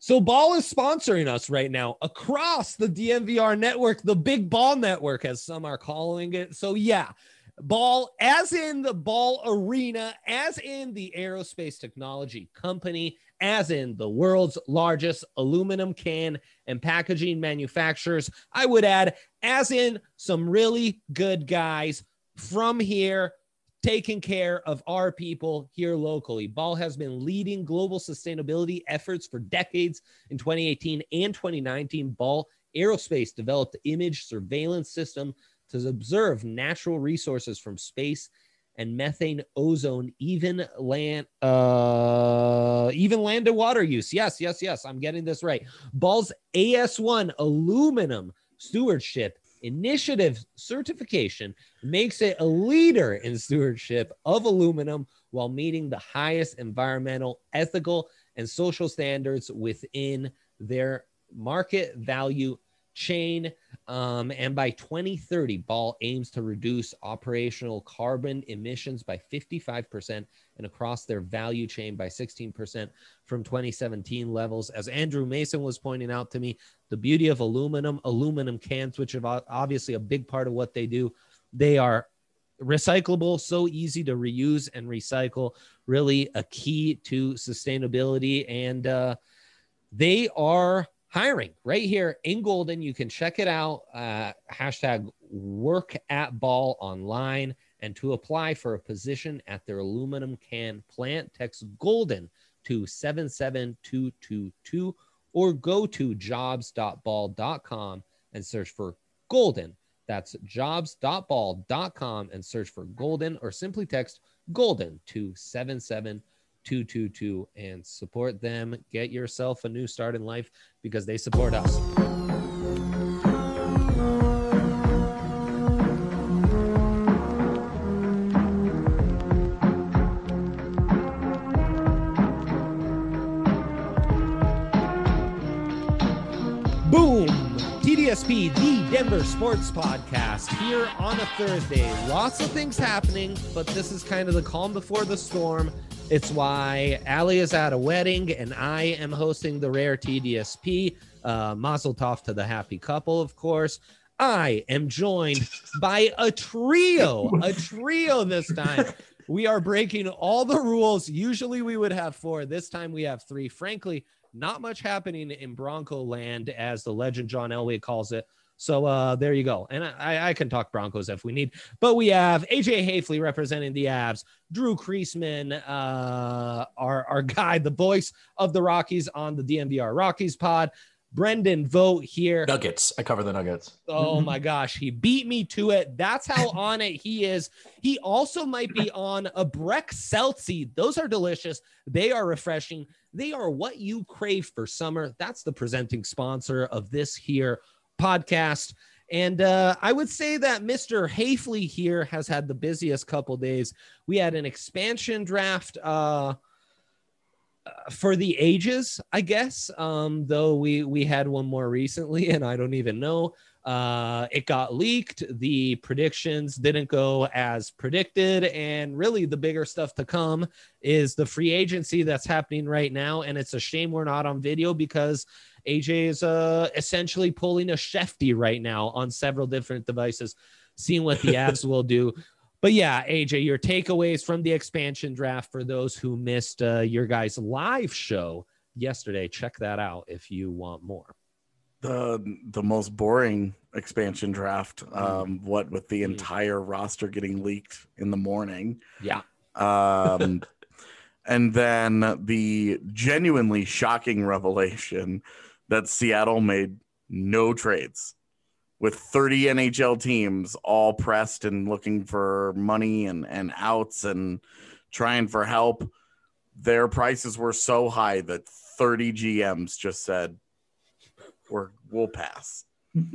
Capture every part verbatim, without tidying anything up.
So Ball is sponsoring us right now across the D N V R network, the Big Ball Network, as some are calling it. So yeah, Ball, as in the Ball Arena, as in the aerospace technology company, as in the world's largest aluminum can and packaging manufacturers. I would add, as in some really good guys from here, taking care of our people here locally. Ball has been leading global sustainability efforts for decades. In twenty eighteen and twenty nineteen, Ball Aerospace developed the image surveillance system to observe natural resources from space and methane, ozone, even land, uh, even land and water use. Yes, yes, yes, I'm getting this right. Ball's A S one aluminum stewardship initiative certification makes it a leader in stewardship of aluminum while meeting the highest environmental, ethical, and social standards within their market value chain. Um, and by twenty thirty, Ball aims to reduce operational carbon emissions by fifty-five percent and across their value chain by sixteen percent from twenty seventeen levels. As Andrew Mason was pointing out to me, the beauty of aluminum, aluminum cans, which are obviously a big part of what they do, they are recyclable, so easy to reuse and recycle, really a key to sustainability. And uh, they are hiring right here in Golden. You can check it out. Uh, hashtag work at Ball online. And to apply for a position at their aluminum can plant, text Golden to seven seven two two two or go to jobs dot ball dot com and search for Golden. That's jobs dot ball dot com and search for Golden, or simply text Golden to seven seven two two two and support them. Get yourself a new start in life because they support us. Boom! T D S P, the Denver Sports Podcast, here on a Thursday. Lots of things happening, but this is kind of the calm before the storm. It's why Allie is at a wedding and I am hosting the Rare T D S P. Uh, mazel tov to the happy couple, of course. I am joined by a trio, a trio this time. We are breaking all the rules. Usually we would have four. This time we have three. Frankly, not much happening in Bronco land, as the legend John Elway calls it. So uh, there you go. And I, I can talk Broncos if we need. But we have A J Hafley representing the Avs, Drew Creasman, uh, our, our guy, the voice of the Rockies on the D N V R Rockies pod. Brendan Vogt here. Nuggets. I cover the Nuggets. Oh, my gosh. He beat me to it. That's how on it he is. He also might be on a Breck Seltzy. Those are delicious. They are refreshing. They are what you crave for summer. That's the presenting sponsor of this here podcast. And uh, I would say that Mister Hafley here has had the busiest couple days. We had an expansion draft uh, for the ages, I guess, um, though we, we had one more recently, and I don't even know. Uh, it got leaked. The predictions didn't go as predicted. And really the bigger stuff to come is the free agency that's happening right now. And it's a shame we're not on video because A J is uh, essentially pulling a Shefty right now on several different devices, seeing what the Avs will do. But yeah, A J, your takeaways from the expansion draft for those who missed uh, your guys' live show yesterday. Check that out if you want more. The the most boring expansion draft, um, what with the entire mm. roster getting leaked in the morning. Yeah. Um, and then the genuinely shocking revelation that Seattle made no trades, with thirty N H L teams all pressed and looking for money and, and outs and trying for help. Their prices were so high that thirty G Ms just said, We're, we'll pass.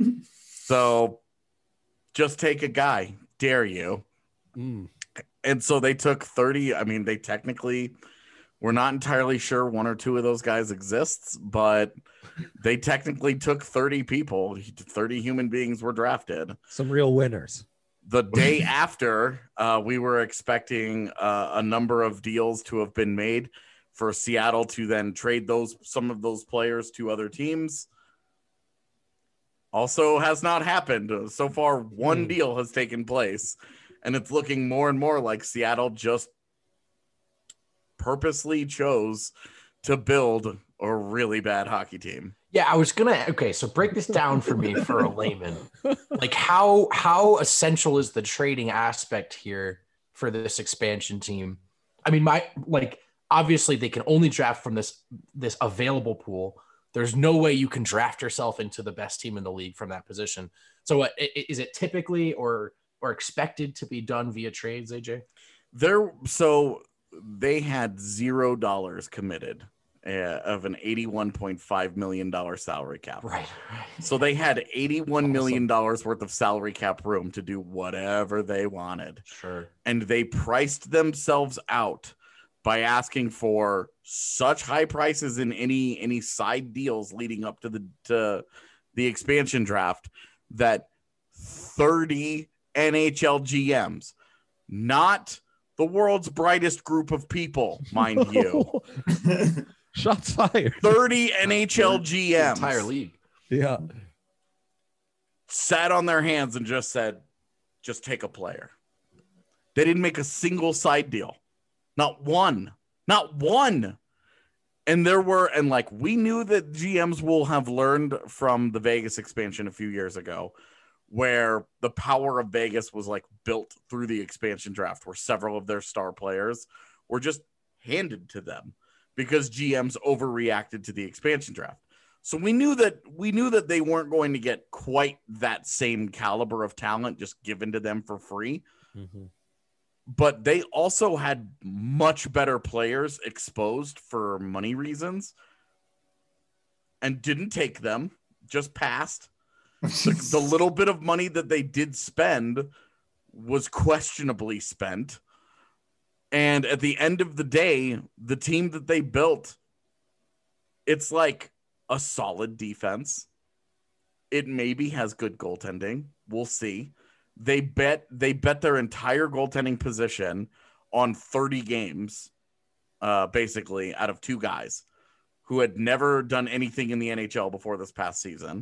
So just take a guy, dare you. Mm. And so they took thirty. I mean, they technically, we're not entirely sure one or two of those guys exists, but they technically took thirty people. thirty human beings were drafted. Some real winners. The day after, uh, we were expecting uh, a number of deals to have been made for Seattle to then trade those some of those players to other teams. Also has not happened. So far, one mm. deal has taken place, and it's looking more and more like Seattle just purposely chose to build a really bad hockey team. Yeah, I was gonna. Okay, so break this down for me for a layman. Like, how how essential is the trading aspect here for this expansion team? I mean, my like obviously they can only draft from this this available pool. There's no way you can draft yourself into the best team in the league from that position. So, uh, is it typically or or expected to be done via trades, A J? There, so they had zero dollars committed. Uh, of an eighty-one point five million dollars salary cap. Right, right. So they had eighty-one million dollars worth of salary cap room to do whatever they wanted. Sure. And they priced themselves out by asking for such high prices in any any side deals leading up to the to the expansion draft that thirty N H L G Ms, not the world's brightest group of people, mind you. Shots fired. thirty N H L G Ms. Entire league. Yeah. Sat on their hands and just said, just take a player. They didn't make a single side deal. Not one. Not one. And there were, and like, we knew that G Ms will have learned from the Vegas expansion a few years ago, where the power of Vegas was like built through the expansion draft, where several of their star players were just handed to them because G Ms overreacted to the expansion draft. So we knew that we knew that they weren't going to get quite that same caliber of talent just given to them for free. Mm-hmm. But they also had much better players exposed for money reasons and didn't take them, just passed. the, the little bit of money that they did spend was questionably spent. And at the end of the day, the team that they built, it's like a solid defense. It maybe has good goaltending. We'll see. They bet they bet their entire goaltending position on thirty games, uh, basically, out of two guys who had never done anything in the N H L before this past season.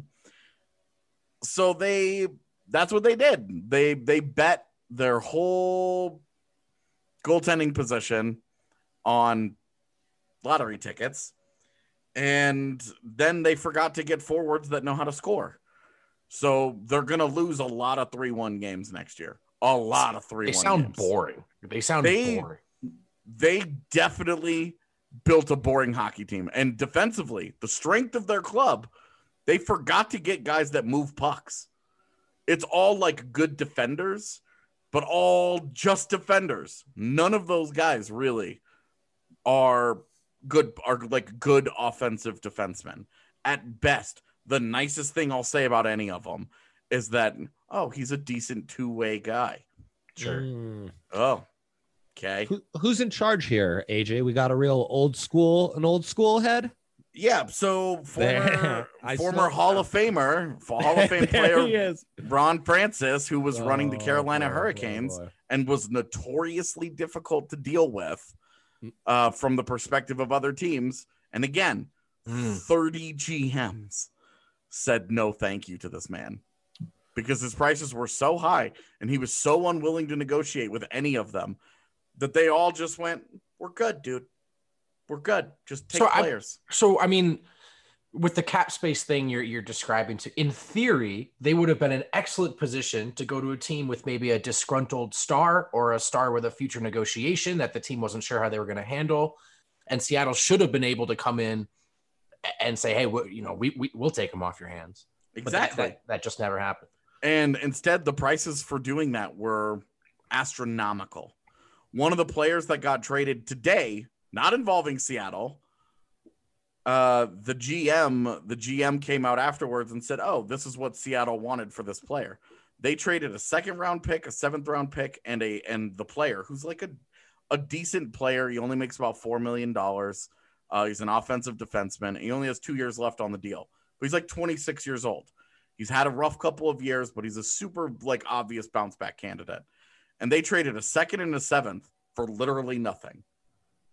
So they that's what they did. They they bet their whole goaltending position on lottery tickets, and then they forgot to get forwards that know how to score. So they're going to lose a lot of three one games next year. A lot of three one games. They sound boring. They sound they, boring. They definitely built a boring hockey team. And defensively, the strength of their club, they forgot to get guys that move pucks. It's all like good defenders, but all just defenders. None of those guys really are good, are like good offensive defensemen. At best, the nicest thing I'll say about any of them is that, oh, he's a decent two-way guy. Sure. Mm. Oh, okay. Who, who's in charge here, A J? We got a real old school, an old school head? Yeah, so former, former Hall of Famer, Hall of Fame player Ron Francis, who was oh, running the Carolina boy, Hurricanes boy, boy. and was notoriously difficult to deal with uh, from the perspective of other teams. And again, mm. thirty G Ms said no thank you to this man because his prices were so high and he was so unwilling to negotiate with any of them that they all just went, we're good, dude. We're good. Just take so players. I, so, I mean, with the cap space thing you're you're describing, to in theory, they would have been an excellent position to go to a team with maybe a disgruntled star or a star with a future negotiation that the team wasn't sure how they were going to handle. And Seattle should have been able to come in and say, hey, we, you know, we, we, we'll take them off your hands. Exactly. That, that, that just never happened. And instead, the prices for doing that were astronomical. One of the players that got traded today, not involving Seattle, uh, the G M, the G M came out afterwards and said, oh, this is what Seattle wanted for this player. They traded a second round pick, a seventh round pick, and a and the player who's like a, a decent player. He only makes about four million dollars. Uh, he's an offensive defenseman. He only has two years left on the deal, but he's like twenty-six years old. He's had a rough couple of years, but he's a super like obvious bounce back candidate. And they traded a second and a seventh for literally nothing.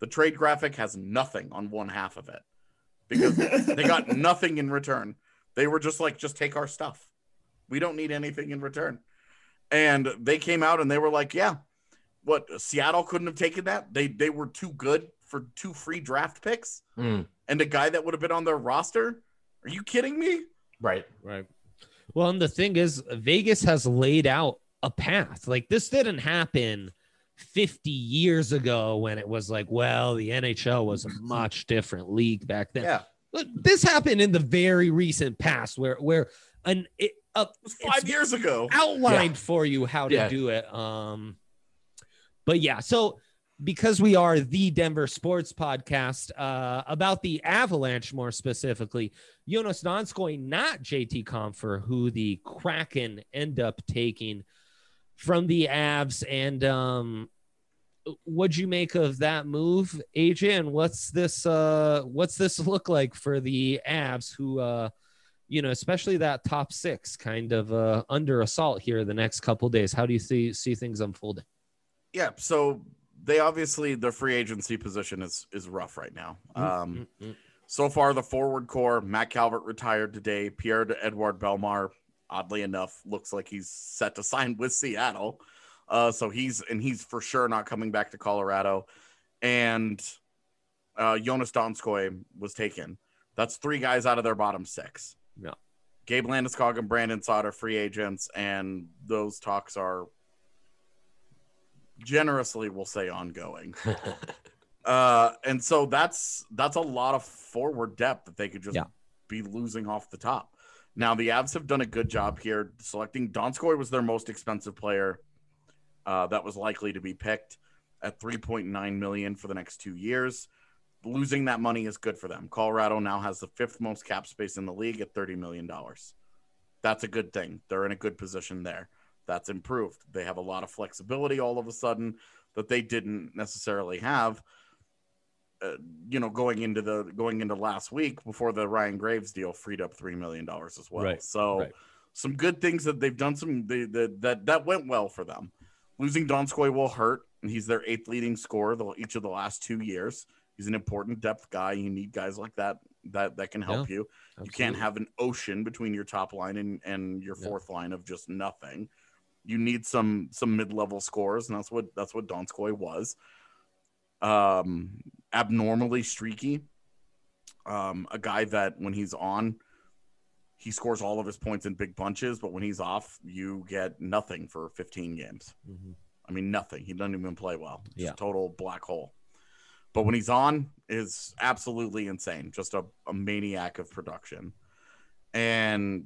The trade graphic has nothing on one half of it because they got nothing in return. They were just like, just take our stuff. We don't need anything in return. And they came out and they were like, yeah, what, Seattle couldn't have taken that? They they were too good for two free draft picks Mm. and a guy that would have been on their roster? Are you kidding me? Right. Right. Well, and the thing is, Vegas has laid out a path. Like, this didn't happen fifty years ago when it was like, well, the N H L was a much different league back then. Yeah. But this happened in the very recent past where where an it, uh, It was five it's years ago. outlined Yeah. for you how to Yeah. do it. Um, but yeah, so because we are the Denver Sports Podcast, uh, about the Avalanche more specifically, Jonas Donskoi, not J T Compher, who the Kraken end up taking from the Avs. And um, what'd you make of that move, A J? And what's this? Uh, what's this look like for the Avs, who, uh, you know, especially that top six, kind of uh, under assault here the next couple days? How do you see see things unfolding? Yeah, so they obviously, their free agency position is is rough right now. Um, Mm-mm. so far, the forward core, Matt Calvert retired today. Pierre-Edouard Bellemare, oddly enough, looks like he's set to sign with Seattle. Uh, so he's, and he's for sure not coming back to Colorado. And uh, Jonas Donskoi was taken. That's three guys out of their bottom six. Yeah. Gabe Landeskog and Brandon Saad are free agents, and those talks are generously, we'll say, ongoing. Uh, and so that's that's a lot of forward depth that they could just Yeah. be losing off the top. Now the Avs have done a good job here selecting. Donskoi was their most expensive player uh, that was likely to be picked at three point nine million dollars for the next two years. Losing that money is good for them. Colorado now has the fifth most cap space in the league at thirty million dollars. That's a good thing. They're in a good position there. That's improved. They have a lot of flexibility all of a sudden that they didn't necessarily have. Uh, you know, going into the going into last week before the Ryan Graves deal freed up three million dollars as well. Right, So right. some good things that they've done. Some they, that that that went well for them. Losing Donskoi will hurt, and he's their eighth leading scorer the, each of the last two years. He's an important depth guy. You need guys like that that that can help Yeah, you. absolutely. You can't have an ocean between your top line and and your Yeah. fourth line of just nothing. You need some some mid-level scores, and that's what that's what Donskoi was. Um, abnormally streaky. Um, a guy that when he's on, he scores all of his points in big bunches, but when he's off, you get nothing for fifteen games. Mhm. I mean, nothing. He doesn't even play well. Just Yeah. total black hole. But when he's on, is absolutely insane. Just a, a maniac of production. And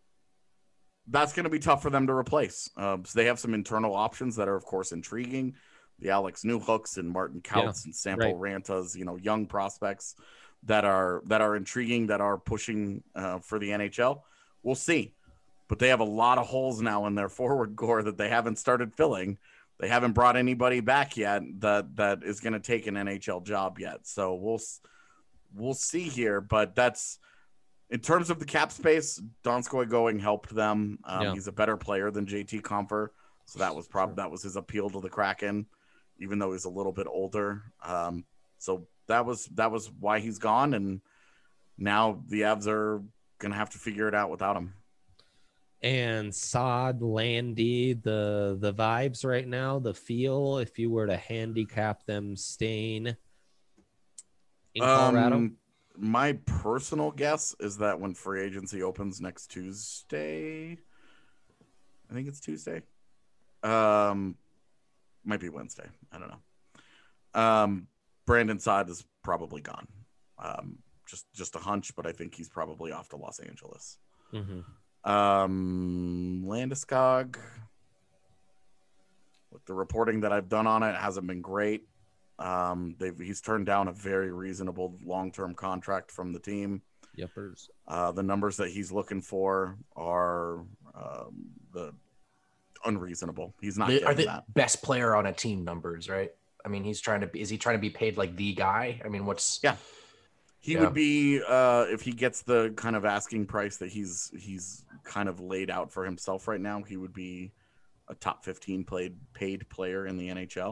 that's going to be tough for them to replace. Uh, so they have some internal options that are, of course, intriguing. The Alex Newhooks and Martin Kautz and Sample Rantas, you know, young prospects that are that are intriguing, that are pushing uh, for the N H L. We'll see. But they have a lot of holes now in their forward core that they haven't started filling. They haven't brought anybody back yet that that is going to take an N H L job yet. So we'll we'll see here. But that's in terms of the cap space. Donskoi going helped them. Um, Yeah. He's a better player than J T Compher, so that was probably Sure. that was his appeal to the Kraken, even though he's a little bit older. Um, so that was that was why he's gone, and now the Avs are going to have to figure it out without him. And Saad, Landy, the the vibes right now, the feel, if you were to handicap them staying in Colorado. Um, my personal guess is that when free agency opens next Tuesday, I think it's Tuesday. Um, might be Wednesday. I don't know. Um, Brandon Saad is probably gone. Um, just just a hunch, but I think he's probably off to Los Angeles. Mhm. Um, Landeskog, with the reporting that I've done on it, hasn't been great. Um, they've he's turned down a very reasonable long-term contract from the team. Yepers. Uh, the numbers that he's looking for are um, the unreasonable. He's not They- getting are the that. best player on a team numbers, right? I mean, he's trying to be, is he trying to be paid like the guy? I mean, what's Yeah. He Yeah. would be uh, if he gets the kind of asking price that he's he's kind of laid out for himself right now. He would be a top fifteen played paid player in the N H L.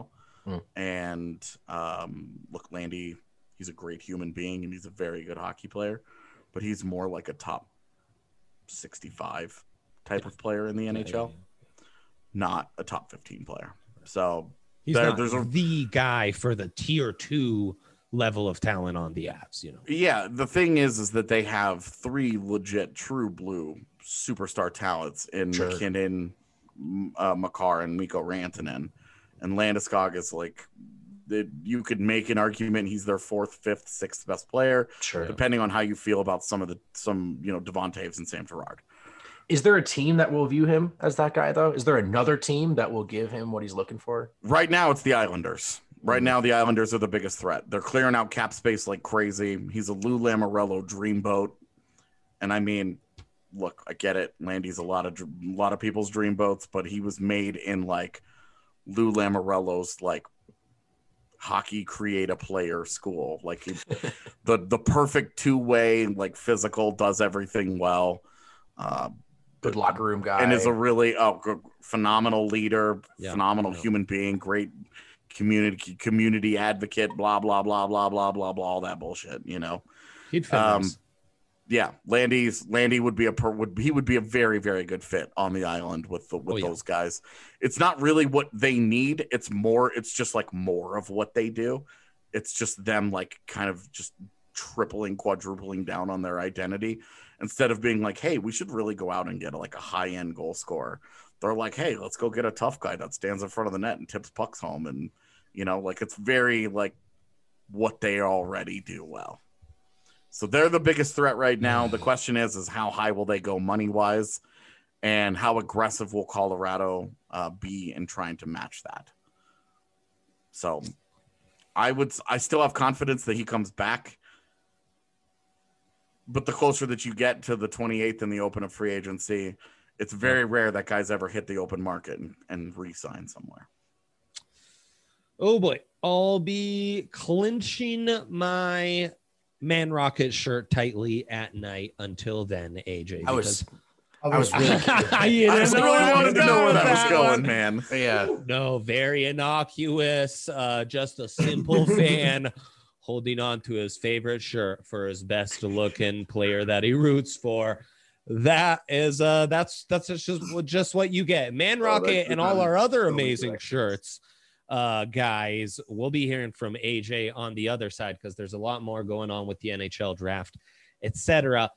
Mm. And um, look, Landy, he's a great human being and he's a very good hockey player, but he's more like a top sixty-five type of player in the N H L, not a top fifteen player. So he's there, not there's a, the guy for the tier two level of talent on the Avs, you know. Yeah, the thing is, is that they have three legit, true blue superstar talents in Sure. McKinnon, uh, Makar, and Mikko Rantanen, and Landeskog is like, that you could make an argument he's their fourth, fifth, sixth best player, Sure. depending on how you feel about some of the some you know Devontae's and Sam Girard. Is there a team that will view him as that guy though? Is there another team that will give him what he's looking for? Right now, it's the Islanders. Right now, the Islanders are the biggest threat. They're clearing out cap space like crazy. He's a Lou Lamoriello dreamboat, and I mean, look, I get it. Landy's a lot of a lot of people's dreamboats, but he was made in like Lou Lamoriello's like hockey create a player school. Like he, the the perfect two way, like physical, does everything well. Uh, Good locker room guy, and is a really oh, good, phenomenal leader, Yeah, phenomenal yeah. human being, great community community advocate, blah blah blah blah blah blah blah, all that bullshit. You know, He'd fit um, nice. yeah, Landy's Landy would be a per, would he would be a very very good fit on the island with the with Oh, yeah. those guys. It's not really what they need. It's more. It's just like more of what they do. It's just them like kind of just tripling, quadrupling down on their identity instead of being like, hey, we should really go out and get like a high end goal scorer. They're like, hey, let's go get a tough guy that stands in front of the net and tips pucks home. And, you know, like it's very like what they already do well. So they're the biggest threat right now. The question is, is how high will they go money wise, and how aggressive will Colorado uh, be in trying to match that? So I would, I still have confidence that he comes back. But the closer that you get to the twenty-eighth in the open of free agency, it's very rare that guys ever hit the open market and, and re-sign somewhere. Oh boy, I'll be clinching my Man Rocket shirt tightly at night until then, A J. I was, because- I was really, You I didn't just know really where I wanted to know where with that was going, one. man. yeah. No, very innocuous. Uh, just a simple fan holding on to his favorite shirt for his best looking player that he roots for. That is uh that's that's just just what you get. Man Rocket that's and all our other so amazing correct. shirts. Uh guys, we'll be hearing from A J on the other side because there's a lot more going on with the N H L draft, et cetera.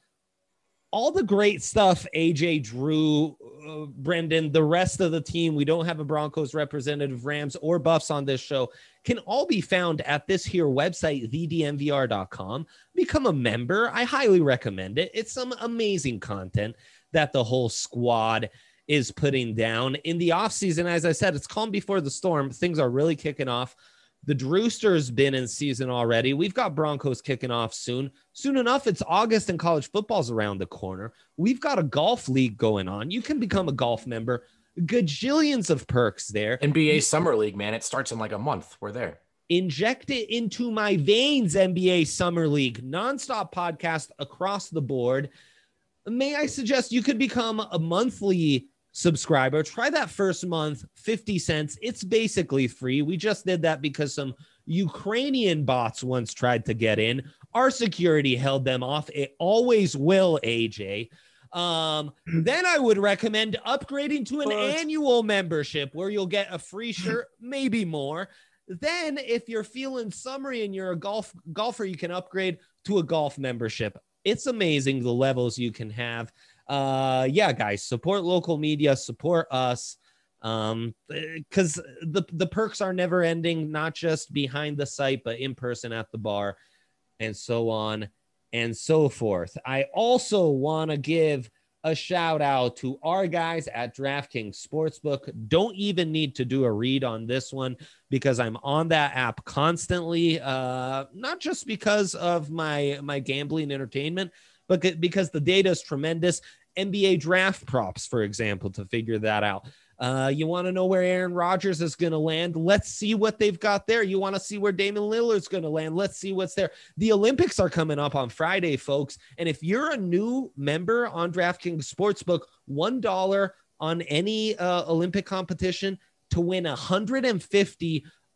All the great stuff, A J, Drew, uh, Brendan, the rest of the team. We don't have a Broncos representative, Rams, or Buffs on this show. Can all be found at this here website, the d m v r dot com. Become a member. I highly recommend it. It's some amazing content that the whole squad is putting down. In the offseason, as I said, it's calm before the storm. Things are really kicking off. The Drewster's been in season already. We've got Broncos kicking off soon. Soon enough, it's August and college football's around the corner. We've got a golf league going on. You can become a golf member. Gajillions of perks there. N B A Summer League, man. It starts in like a month. We're there. Inject it into my veins, N B A Summer League. Nonstop podcast across the board. May I suggest you could become a monthly subscriber. Try that first month, fifty cents. It's basically free. We just did that because some Ukrainian bots once tried to get in. Our security held them off. It always will, A J. Um, then I would recommend upgrading to an What? annual membership where you'll get a free shirt, maybe more. Then if you're feeling summery and you're a golf golfer, you can upgrade to a golf membership. It's amazing the levels you can have. Uh, yeah, guys, support local media, support us. Um, because the, the perks are never ending, not just behind the site, but in person at the bar and so on and so forth. I also want to give a shout out to our guys at DraftKings Sportsbook. Don't even need to do a read on this one because I'm on that app constantly. Uh, not just because of my, my gambling entertainment, but because the data is tremendous. N B A draft props, for example, to figure that out. Uh, you want to know where Aaron Rodgers is going to land? Let's see what they've got there. You want to see where Damian Lillard's going to land? Let's see what's there. The Olympics are coming up on Friday, folks. And if you're a new member on DraftKings Sportsbook, one dollar on any uh, Olympic competition to win one hundred fifty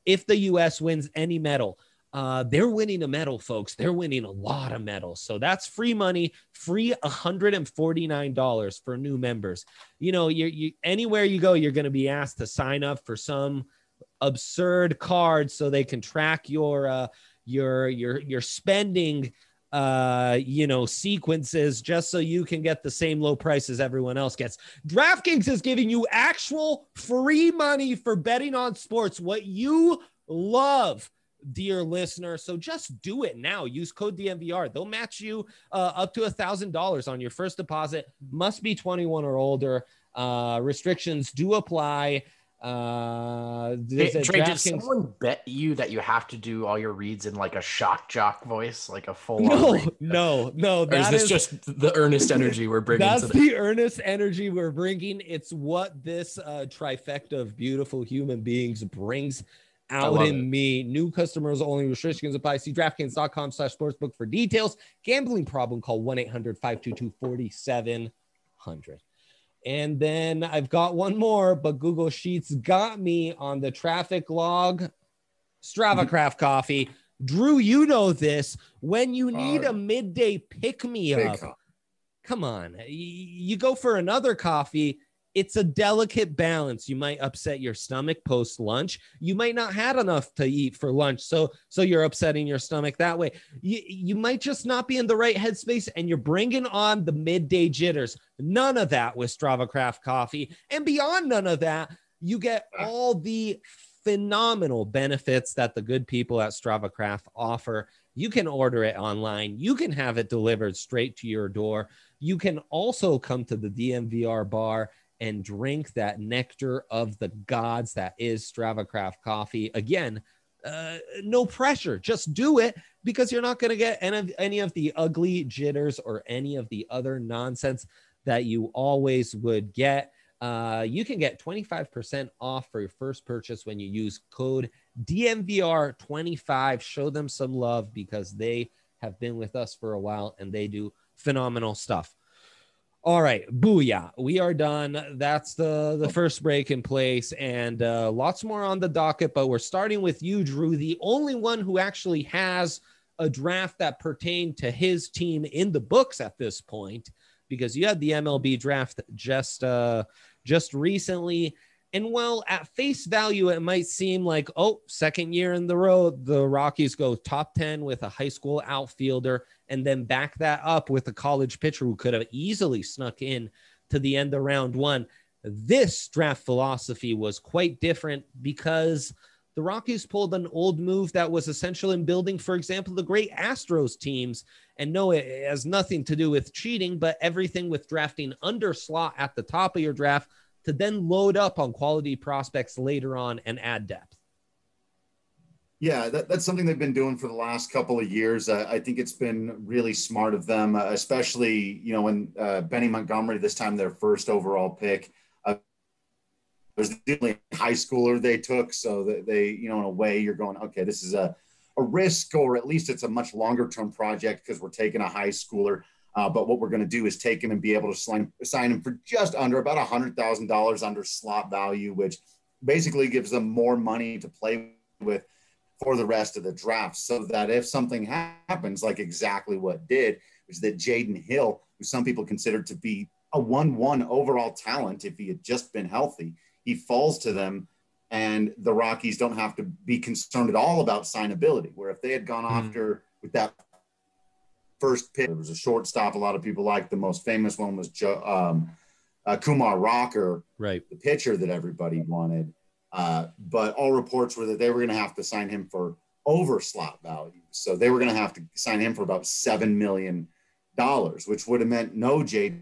if the U S wins any medal, uh, they're winning a medal, folks. They're winning a lot of medals. So that's free money, free one hundred forty-nine dollars for new members. You know, you you anywhere you go, you're going to be asked to sign up for some absurd card so they can track your uh, your your your spending uh you know sequences, just so you can get the same low price as everyone else gets. DraftKings is giving you actual free money for betting on sports, what you love, dear listener. So just do it now. Use code D M V R. They'll match you uh, up to a thousand dollars on your first deposit. Must be twenty-one or older. Uh restrictions do apply. Uh, hey, Trey, did someone bet you that you have to do all your reads in like a shock jock voice, like a full? No, no, no. Or is this is, just the earnest energy we're bringing? That's to the-, the earnest energy we're bringing. It's what this uh, trifecta of beautiful human beings brings out in it. me. New customers only. Restrictions apply. See DraftKings.com slash sportsbook for details. Gambling problem? Call one eight hundred five two two four seven zero zero. And then I've got one more, but Google Sheets got me on the traffic log. Strava Craft Coffee. Drew, you know this. When you need uh, a midday pick-me-up, come on. You go for another coffee. It's a delicate balance. You might upset your stomach post-lunch. You might not have enough to eat for lunch, so so you're upsetting your stomach that way. You, you might just not be in the right headspace, and you're bringing on the midday jitters. None of that with Strava Craft Coffee. And beyond none of that, you get all the phenomenal benefits that the good people at Strava Craft offer. You can order it online. You can have it delivered straight to your door. You can also come to the D M V R bar and drink that nectar of the gods that is Strava Craft Coffee. Again, uh, no pressure. Just do it, because you're not going to get any of, any of the ugly jitters or any of the other nonsense that you always would get. Uh, you can get twenty-five percent off for your first purchase when you use code D M V R twenty-five. Show them some love, because they have been with us for a while and they do phenomenal stuff. All right, booyah. We are done. That's the, the first break in place, and uh, lots more on the docket, but we're starting with you, Drew, the only one who actually has a draft that pertained to his team in the books at this point, because you had the M L B draft just uh, just recently. And while at face value, it might seem like, oh, second year in the row, the Rockies go top ten with a high school outfielder, and then back that up with a college pitcher who could have easily snuck in to the end of round one. This draft philosophy was quite different, because the Rockies pulled an old move that was essential in building, for example, the great Astros teams. And no, it has nothing to do with cheating, but everything with drafting under slot at the top of your draft to then load up on quality prospects later on and add depth. Yeah, that, that's something they've been doing for the last couple of years. Uh, I think it's been really smart of them, uh, especially, you know, when uh, Benny Montgomery, this time their first overall pick, uh, was the only high schooler they took. So that they, you know, in a way you're going, okay, this is a, a risk, or at least it's a much longer term project because we're taking a high schooler. Uh, but what we're going to do is take him and be able to sign, sign him for just under about one hundred thousand dollars under slot value, which basically gives them more money to play with for the rest of the draft, so that if something happens, like exactly what did, is that Jaden Hill, who some people consider to be a one one overall talent if he had just been healthy, he falls to them, and the Rockies don't have to be concerned at all about signability, where if they had gone mm. after with that first pick, there was a shortstop a lot of people liked. The most famous one was Joe, um, uh, Kumar Rocker, right, the pitcher that everybody wanted. Uh, but all reports were that they were going to have to sign him for over slot value. So they were going to have to sign him for about seven million dollars, which would have meant no Jaden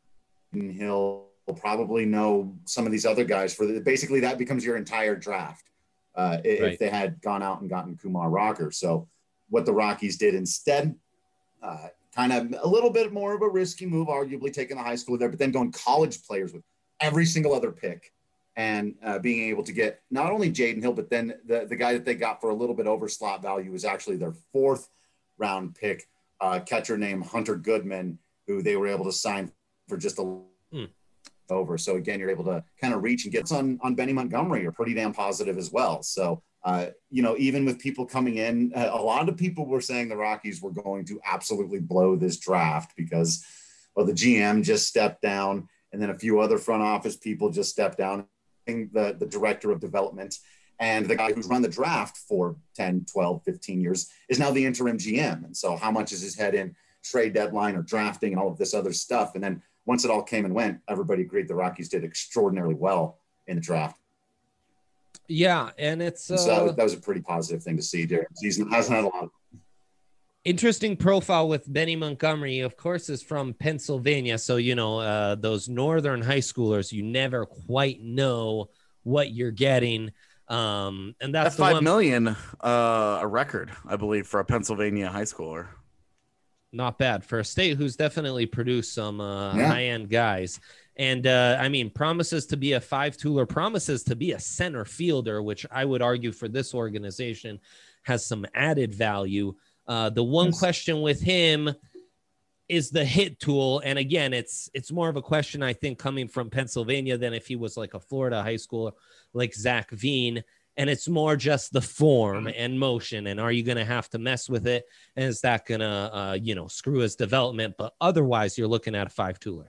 Hill, probably no some of these other guys. For the, basically that becomes your entire draft uh, if right. they had gone out and gotten Kumar Rocker. So what the Rockies did instead, uh, kind of a little bit more of a risky move, arguably taking the high school there, but then going college players with every single other pick. And uh, being able to get not only Jaden Hill, but then the, the guy that they got for a little bit over slot value was actually their fourth round pick, uh, catcher named Hunter Goodman, who they were able to sign for just a hmm. over. So again, you're able to kind of reach and get on, on Benny Montgomery are pretty damn positive as well. So Uh, you know, even with people coming in, a lot of people were saying the Rockies were going to absolutely blow this draft because, well, the G M just stepped down, and then a few other front office people just stepped down. The, the director of development and the guy who's run the draft for ten, twelve, fifteen years is now the interim G M. And so how much is his head in trade deadline or drafting and all of this other stuff? And then once it all came and went, everybody agreed the Rockies did extraordinarily well in the draft. Yeah, and it's uh, so that, was, that was a pretty positive thing to see. Derek Season hasn't had a lot of interesting profile with Benny Montgomery, of course, is from Pennsylvania. So, you know, uh, those northern high schoolers, you never quite know what you're getting. Um, and that's, that's the five one... million, uh, a record, I believe, for a Pennsylvania high schooler. Not bad for a state who's definitely produced some uh, yeah. high-end guys. And, uh, I mean, promises to be a five-tooler, promises to be a center fielder, which I would argue for this organization has some added value. Uh, the one yes. question with him is the hit tool. And again, it's it's more of a question, I think, coming from Pennsylvania than if he was like a Florida high schooler like Zach Veen. And it's more just the form and motion. And are you going to have to mess with it? And is that going to, uh, you know, screw his development? But otherwise, you're looking at a five-tooler.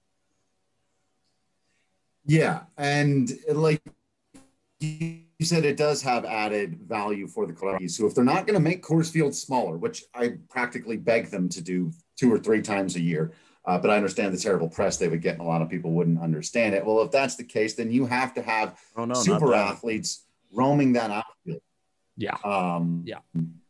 Yeah. And like you said, it does have added value for the Rockies. So if they're not going to make Coors Field smaller, which I practically beg them to do two or three times a year, uh, but I understand the terrible press they would get and a lot of people wouldn't understand it. Well, if that's the case, then you have to have oh, no, super athletes roaming that outfield. Yeah. Um, yeah.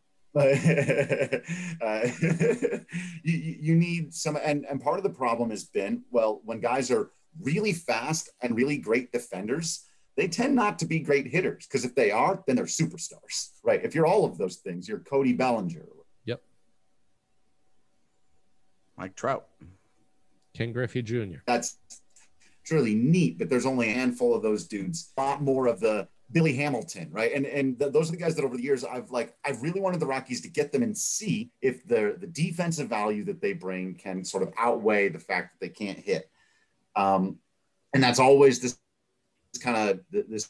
uh, you, you need some, and, and part of the problem has been, well, when guys are really fast and really great defenders, they tend not to be great hitters, because if they are, then they're superstars, right? If you're all of those things, you're Cody Bellinger. Yep. Mike Trout. Ken Griffey Junior That's truly neat, but there's only a handful of those dudes. A lot more of the Billy Hamilton, right? And and th- those are the guys that over the years I've like I've really wanted the Rockies to get them and see if the the defensive value that they bring can sort of outweigh the fact that they can't hit. Um, and that's always this, this kind of this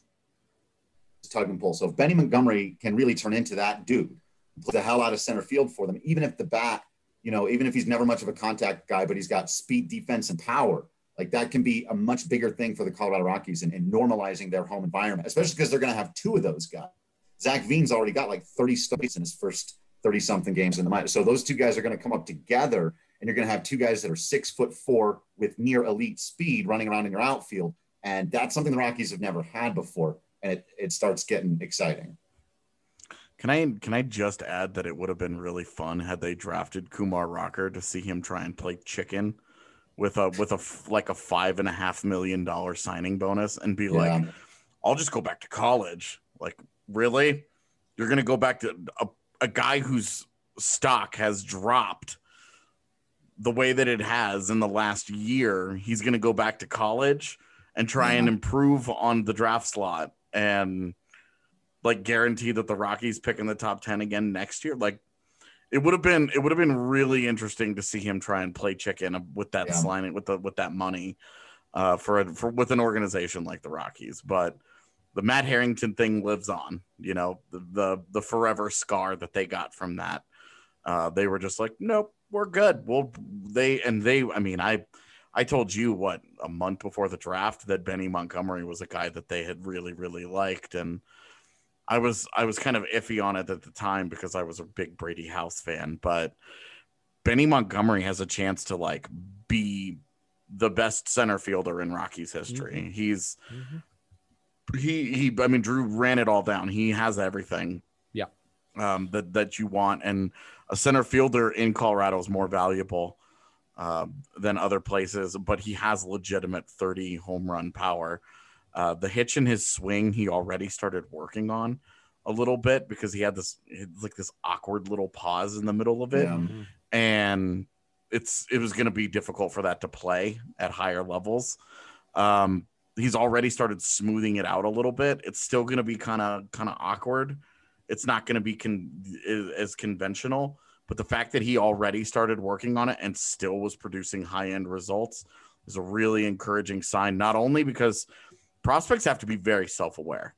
tug and pull. So if Benny Montgomery can really turn into that dude, play the hell out of center field for them, even if the bat, you know, even if he's never much of a contact guy, but he's got speed, defense, and power. Like that can be a much bigger thing for the Colorado Rockies in, in normalizing their home environment, especially because they're going to have two of those guys. Zach Veen's already got like thirty starts in his first thirty something games in the minor. So those two guys are going to come up together, and you're going to have two guys that are six foot four with near elite speed running around in your outfield. And that's something the Rockies have never had before. And it, it starts getting exciting. Can I can I just add that it would have been really fun had they drafted Kumar Rocker to see him try and play chicken with a with a like a five and a half million dollar signing bonus and be yeah. like, I'll just go back to college. Like, really? You're gonna go back to a, a guy whose stock has dropped the way that it has in the last year? He's gonna go back to college and try yeah. and improve on the draft slot and like guarantee that the Rockies pick in the top ten again next year. Like, it would have been, it would have been really interesting to see him try and play chicken with that yeah. signing, with the, with that money uh, for, a, for, with an organization like the Rockies. But the Matt Harrington thing lives on, you know, the, the, the forever scar that they got from that. Uh, they were just like, nope, we're good. Well, they, and they, I mean, I, I told you what, a month before the draft that Benny Montgomery was a guy that they had really, really liked. And I was I was kind of iffy on it at the time because I was a big Brady House fan, but Benny Montgomery has a chance to like be the best center fielder in Rockies history. Mm-hmm. He's mm-hmm. he he I mean Drew ran it all down. He has everything. Yeah. Um that that you want, and a center fielder in Colorado is more valuable uh, than other places, but he has legitimate thirty home run power. Uh, the hitch in his swing, he already started working on a little bit because he had this like this awkward little pause in the middle of it. Yeah. And it's, it was going to be difficult for that to play at higher levels. Um, he's already started smoothing it out a little bit. It's still going to be kind of, kind of awkward. It's not going to be con- as conventional, but the fact that he already started working on it and still was producing high-end results is a really encouraging sign, not only because prospects have to be very self-aware.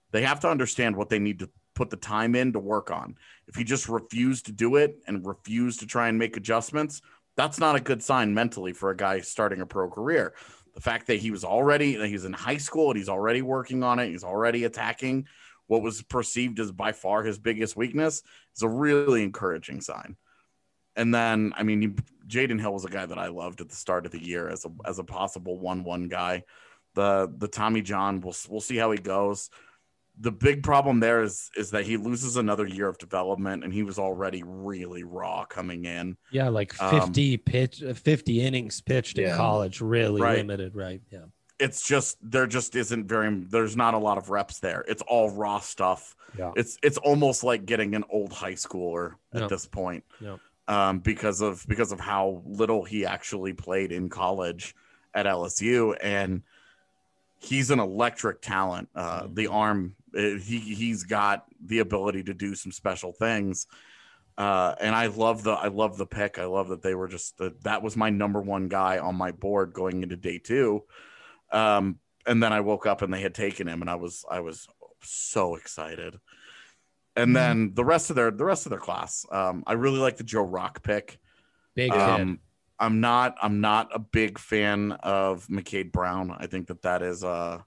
They have to understand what they need to put the time in to work on. If he just refused to do it and refused to try and make adjustments, that's not a good sign mentally for a guy starting a pro career. The fact that he was already, that he's in high school and he's already working on it, he's already attacking what was perceived as by far his biggest weakness is a really encouraging sign. And then, I mean, Jaden Hill was a guy that I loved at the start of the year as a as a possible one one guy. The the Tommy John, we'll we'll see how he goes. The big problem there is is that he loses another year of development, and he was already really raw coming in. Yeah, like fifty um, pitch, fifty innings pitched yeah. in college, really Right. limited, right? Yeah. It's just there just isn't very there's not a lot of reps there. It's all raw stuff. Yeah. It's it's almost like getting an old high schooler at Yeah. this point. Yeah. Um, because of because of how little he actually played in college at L S U, and he's an electric talent. Uh, Mm-hmm. The arm, uh, he he's got the ability to do some special things. Uh, and I love the I love the pick. I love that they were just the, that was my number one guy on my board going into day two. Um, and then I woke up and they had taken him, and I was I was so excited. And then the rest of their the rest of their class, um, I really like the Joe Rock pick. Big kid. Um, I'm not I'm not a big fan of McCade Brown. I think that that is a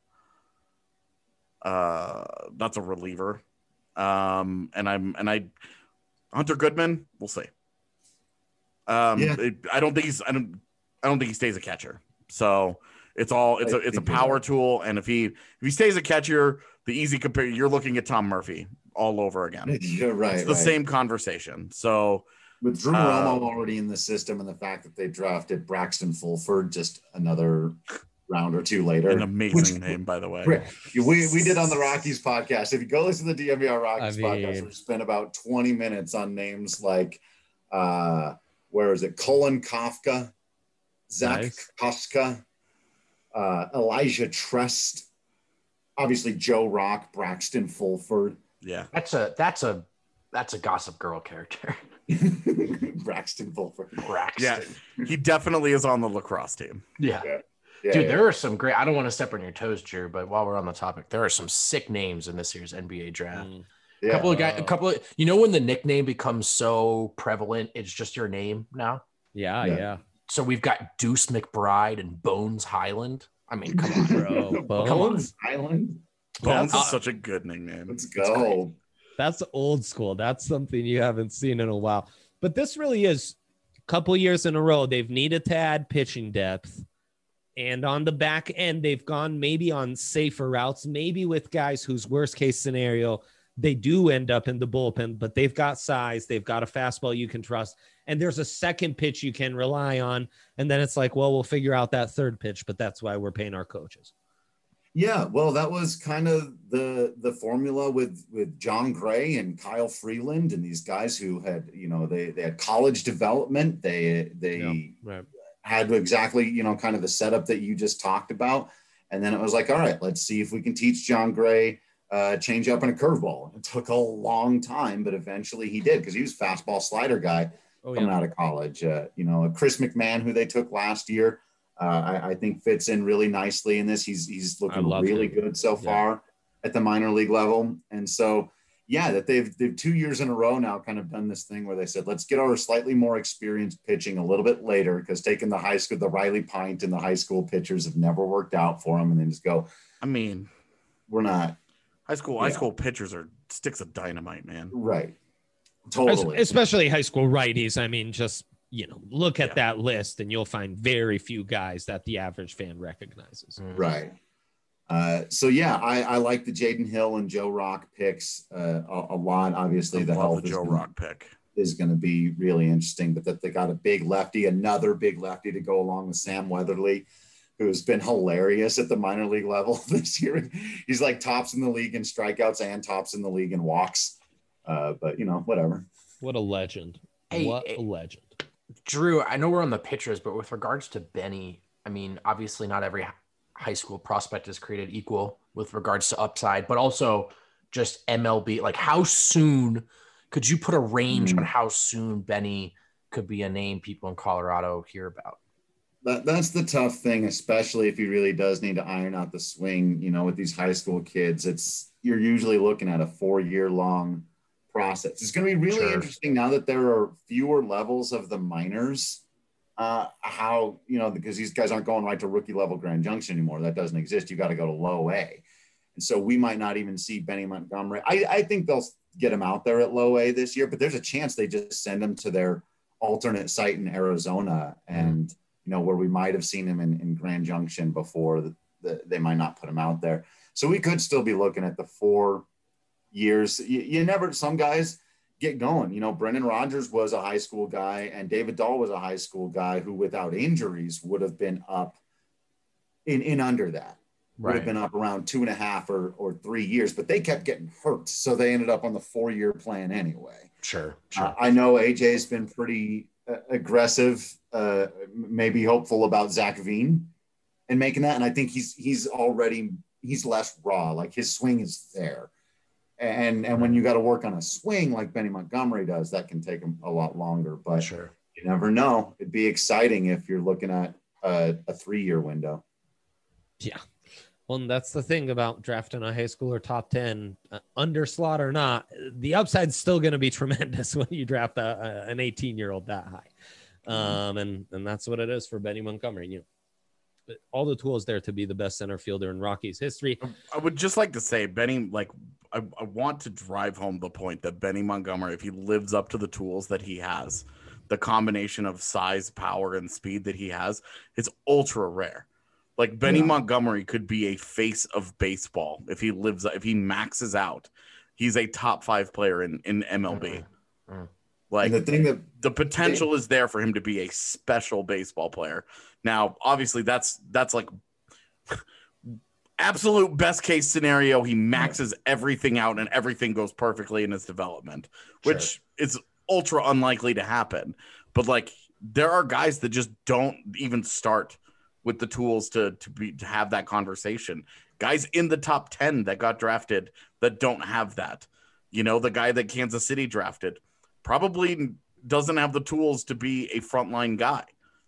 uh, that's a reliever. Um, and I'm and I Hunter Goodman, we'll see. Um, Yeah. it, I don't think he's I don't I don't think he stays a catcher. So it's all it's I a it's a think you're power right. tool, and if he if he stays a catcher, the easy compare you're looking at Tom Murphy all over again. You're right. It's the right. same conversation. So With Drew Uh, Romo already in the system, and the fact that they drafted Braxton Fulford just another round or two later. an amazing Which- name, by the way. Great. We, we did on the Rockies podcast. If you go listen to the D M V R Rockies I mean- podcast, we spent about twenty minutes on names like, uh, where is it? Colin Kafka, Zach Nice. Koska, uh, Elijah Trust, obviously Joe Rock, Braxton Fulford, Yeah. That's a that's a that's a Gossip Girl character. Braxton Fulford. Braxton. Yeah. He definitely is on the lacrosse team. Yeah. Yeah, Dude, yeah. there are some great. I don't want to step on your toes, Drew, but while we're on the topic, there are some sick names in this year's N B A draft. Mm. A Yeah. couple of guys, a couple of you know when the nickname becomes so prevalent, it's just your name now. Yeah, Yeah. yeah. So we've got Deuce McBride and Bones Highland. I mean, come on, Bro, Bones? Island. Bones That's- is such a good nickname. Let's It's go. great. That's old school. That's something you haven't seen in a while. But this really is a couple years in a row. They've needed to add pitching depth. And on the back end, they've gone maybe on safer routes, maybe with guys whose worst case scenario, they do end up in the bullpen, but they've got size. They've got a fastball you can trust. And there's a second pitch you can rely on. And then it's like, well, we'll figure out that third pitch, but that's why we're paying our coaches. Yeah, well, that was kind of the the formula with with John Gray and Kyle Freeland and these guys who had, you know, they they had college development. They they Yeah, right. had exactly, you know, kind of the setup that you just talked about. And then it was like, all right, let's see if we can teach John Gray uh, change up and a curveball. It took a long time, but eventually he did because he was a fastball slider guy Oh, coming yeah. out of college. Uh, you know, Chris McMahon, who they took last year, uh, I, I think fits in really nicely in this. He's he's looking love really him. good so Yeah. far at the minor league level. And so, yeah, that they've they've two years in a row now kind of done this thing where they said, let's get our slightly more experienced pitching a little bit later because taking the high school, the Riley Pint and the high school pitchers have never worked out for them. And then just go, I mean, we're not high school high Yeah. school pitchers are sticks of dynamite, man. right. Totally. Especially high school righties. I mean, just, you know, look at Yeah. that list and you'll find very few guys that the average fan recognizes. Mm. Right. Uh, so yeah, I, I like the Jaden Hill and Joe Rock picks uh, a, a lot. Obviously, I the love health the is Joe gonna, Rock pick. is going to be really interesting. But that they got a big lefty, another big lefty to go along with Sam Weatherly, who's been hilarious at the minor league level this year. He's like tops in the league in strikeouts and tops in the league in walks. Uh, but you know, whatever. What a legend. Hey, what hey. a legend. Drew, I know we're on the pitchers, but with regards to Benny, I mean, obviously not every hi- high school prospect is created equal with regards to upside, but also just M L B. Like, how soon could you put a range Mm. on how soon Benny could be a name people in Colorado hear about? That, that's the tough thing, especially if he really does need to iron out the swing. You know, with these high school kids, it's you're usually looking at a four-year long process. It's going to be really Sure. interesting now that there are fewer levels of the minors. Uh, how you know because these guys aren't going right to rookie level Grand Junction anymore. That doesn't exist. You got to go to low A, and so we might not even see Benny Montgomery. I, I think they'll get him out there at low A this year, but there's a chance they just send him to their alternate site in Arizona and. You know, where we might have seen him in, in Grand Junction before, the, the, they might not put him out there. So we could still be looking at the four years. You, you never, some guys get going. You know, Brendan Rodgers was a high school guy and David Dahl was a high school guy who without injuries would have been up in, in under that. Would Right. have been up around two and a half or, or three years, but they kept getting hurt. So they ended up on the four-year plan anyway. Sure. Sure. Uh, I know A J's been pretty uh, aggressive, uh, maybe hopeful about Zach Veen and making that. And I think he's he's already he's less raw. Like his swing is there, and and when you got to work on a swing like Benny Montgomery does, that can take him a lot longer. But Sure. you never know. It'd be exciting if you're looking at a, a three-year window. Yeah. Well, and that's the thing about drafting a high schooler top ten, uh, under slot or not. The upside's still going to be tremendous when you draft a, a, an eighteen-year-old that high. Um, and, and that's what it is for Benny Montgomery. You know, all the tools there to be the best center fielder in Rockies history. I would just like to say, Benny, like, I, I want to drive home the point that Benny Montgomery, if he lives up to the tools that he has, the combination of size, power, and speed that he has, it's ultra rare. Like Benny Yeah. Montgomery could be a face of baseball if he lives, if he maxes out. He's a top five player in, in M L B. Mm-hmm. Mm-hmm. Like And the thing that the potential is there for him to be a special baseball player. Now, obviously, that's that's like absolute best case scenario. He maxes everything out and everything goes perfectly in his development, which Sure. is ultra unlikely to happen. But like, there are guys that just don't even start with the tools to to be to have that conversation. Guys in the top ten that got drafted that don't have that. You know, the guy that Kansas City drafted probably doesn't have the tools to be a frontline guy.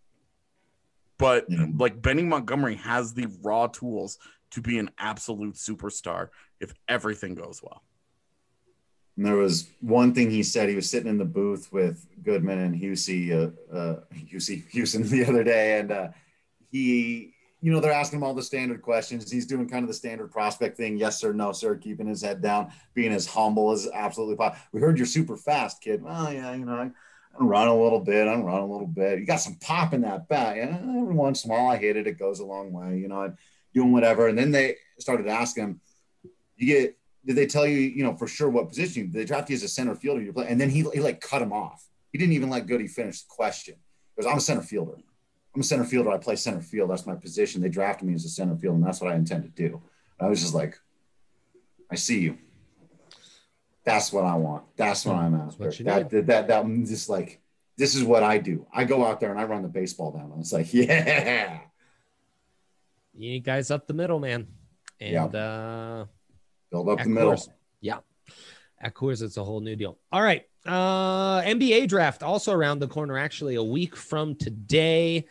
But Yeah. like Benny Montgomery has the raw tools to be an absolute superstar if everything goes well. And there was one thing he said. He was sitting in the booth with Goodman and Husey, uh, uh, Husey, Houston the other day, and uh, he, you know, they're asking him all the standard questions. He's doing kind of the standard prospect thing, yes sir, no sir, keeping his head down, being as humble as absolutely possible. We heard you're super fast, kid. Well, yeah, you know, I, I run a little bit. I run a little bit. You got some pop in that bat. Yeah, every once in a while I hit it. It goes a long way. You know, I'm doing whatever. And then they started asking him, you get. Did they tell you, you know, for sure what position? Did they draft you as a center fielder? You play, and then he, he like cut him off. He didn't even let Goody finish the question. He goes, I'm a center fielder. I'm a center fielder. I play center field. That's my position. They drafted me as a center field, and that's what I intend to do. And I was just like, I see you. That's what I want. That's what I'm after. what you That, that, that, that, I'm just like, this is what I do. I go out there and I run the baseball down. And it's like, yeah. You need guys up the middle, man. And, Yeah. uh, Build up At the middle. Coors. Yeah. At Coors, it's a whole new deal. All right. Uh, N B A draft also around the corner, actually, a week from today.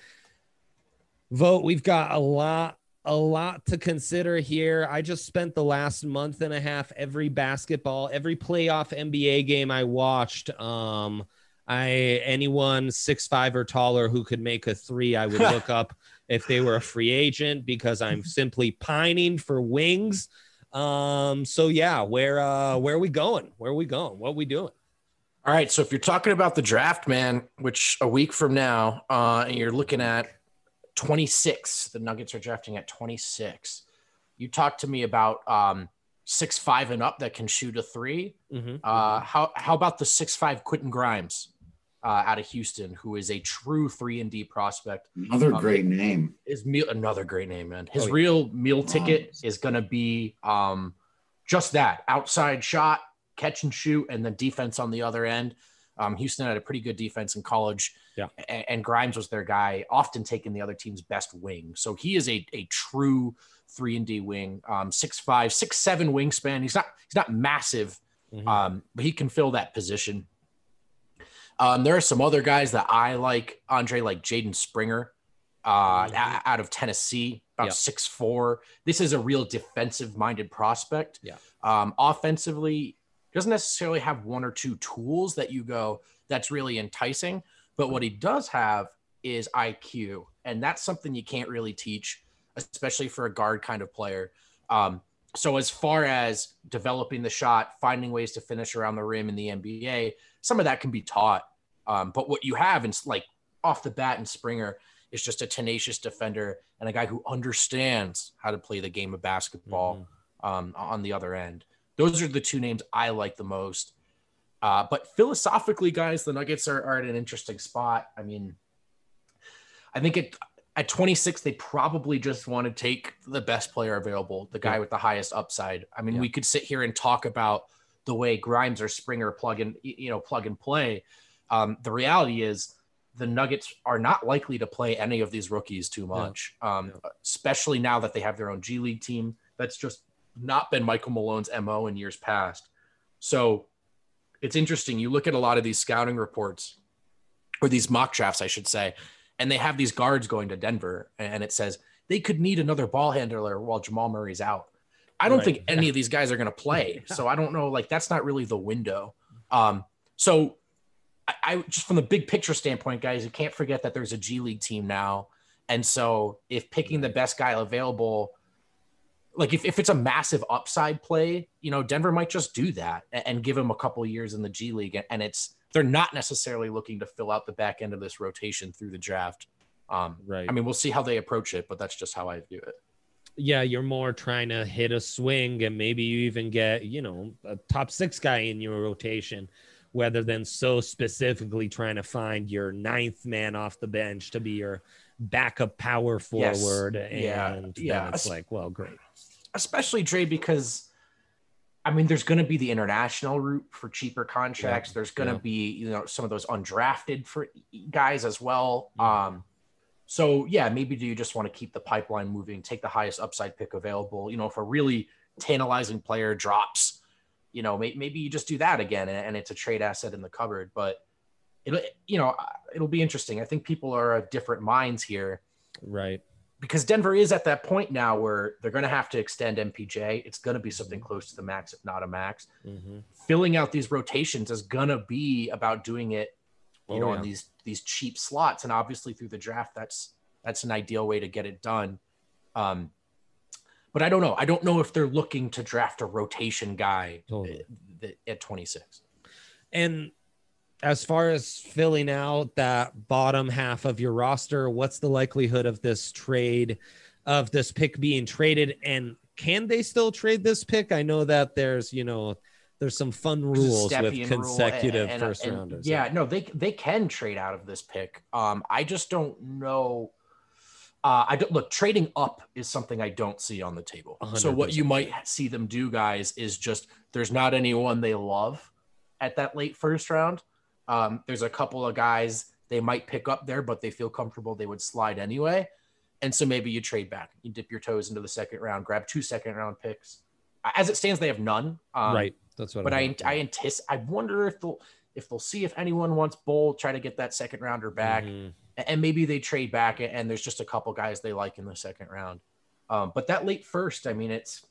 Vote. We've got a lot, a lot to consider here. I just spent the last month and a half, every basketball, every playoff N B A game I watched. Um, I anyone six five or taller who could make a three, I would look up if they were a free agent because I'm simply pining for wings. Um, so yeah, where, uh, where are we going? Where are we going? What are we doing? All right. So if you're talking about the draft, man, which a week from now, uh, and you're looking at twenty-six, the Nuggets are drafting at twenty-six. You talk to me about um, six five and up that can shoot a three. Mm-hmm. Uh, how how about the six five Quentin Grimes uh, out of Houston, who is a true three and D prospect? Another Um, great name. His meal, another great name, man. His Oh, yeah. real meal ticket Nice. is going to be um, just that outside shot, catch and shoot, and then defense on the other end. Um, Houston had a pretty good defense in college. Yeah. And, and Grimes was their guy, often taking the other team's best wing. So he is a, a true three and D wing, um, six five, six seven wingspan. He's not he's not massive, Mhm. um, but he can fill that position. Um, there are some other guys that I like, Andre, like Jaden Springer. uh, Mhm. out of Tennessee, about Yeah. six foot four. This is a real defensive-minded prospect. Yeah. Um, offensively, doesn't necessarily have one or two tools that you go, that's really enticing. But what he does have is I Q. And that's something you can't really teach, especially for a guard kind of player. Um, so as far as developing the shot, finding ways to finish around the rim in the N B A, some of that can be taught. Um, but what you have in like off the bat in Springer is just a tenacious defender and a guy who understands how to play the game of basketball mm-hmm. um, on the other end. Those are the two names I like the most. Uh, but philosophically, guys, the Nuggets are, are at an interesting spot. I mean, I think it, at twenty-six, they probably just want to take the best player available, the guy yeah. with the highest upside. I mean, yeah. we could sit here and talk about the way Grimes or Springer plug and, you know, plug and play. Um, the reality is the Nuggets are not likely to play any of these rookies too much, yeah. Um, yeah. especially now that they have their own G League team. That's just not been Michael Malone's M O in years past. So it's interesting. You look at a lot of these scouting reports or these mock drafts, I should say, and they have these guards going to Denver and it says they could need another ball handler while Jamal Murray's out. I don't right. think any yeah. of these guys are going to play. Yeah. So I don't know, like that's not really the window. Um, so I, I just from the big picture standpoint, guys, you can't forget that there's a G League team now. And so if picking the best guy available, like if, if it's a massive upside play, you know, Denver might just do that and, and give him a couple of years in the G League. And it's, they're not necessarily looking to fill out the back end of this rotation through the draft. Um, right. I mean, we'll see how they approach it, but that's just how I view it. Yeah, you're more trying to hit a swing and maybe you even get, you know, a top six guy in your rotation, rather than so specifically trying to find your ninth man off the bench to be your backup power forward. Yes. And yeah. then yeah. it's like, well, great. Especially Dre, because I mean, there's going to be the international route for cheaper contracts. Yeah. There's going to yeah. be, you know, some of those undrafted for guys as well. Yeah. Um, So, yeah, maybe do you just want to keep the pipeline moving, take the highest upside pick available? You know, if a really tantalizing player drops, you know, maybe, maybe you just do that again and, and it's a trade asset in the cupboard. But, it'll, you know, it'll be interesting. I think people are of different minds here. Right. Because Denver is at that point now where they're going to have to extend M P J. It's going to be something close to the max, if not a max. Mm-hmm. Filling out these rotations is going to be about doing it, you oh, know, yeah. on these these cheap slots. And obviously through the draft, that's that's an ideal way to get it done. Um, but I don't know. I don't know if they're looking to draft a rotation guy totally. at, at twenty-six. And as far as filling out that bottom half of your roster, what's the likelihood of this trade, of this pick being traded? And can they still trade this pick? I know that there's, you know, there's some fun rules with consecutive and, and, first and, rounders. Yeah, no, they they can trade out of this pick. Um, I just don't know. Uh, I don't look trading up is something I don't see on the table. one hundred percent. So what you might see them do, guys, is just there's not anyone they love at that late first round. Um, there's a couple of guys they might pick up there, but they feel comfortable they would slide anyway. And so maybe you trade back, you dip your toes into the second round, grab two second round picks. As it stands, they have none. Um, right. That's what. But I I anticipate. I wonder if they'll if they'll see if anyone wants Bull, try to get that second rounder back, mm-hmm. and maybe they trade back, and there's just a couple guys they like in the second round. Um, but that late first, I mean, it's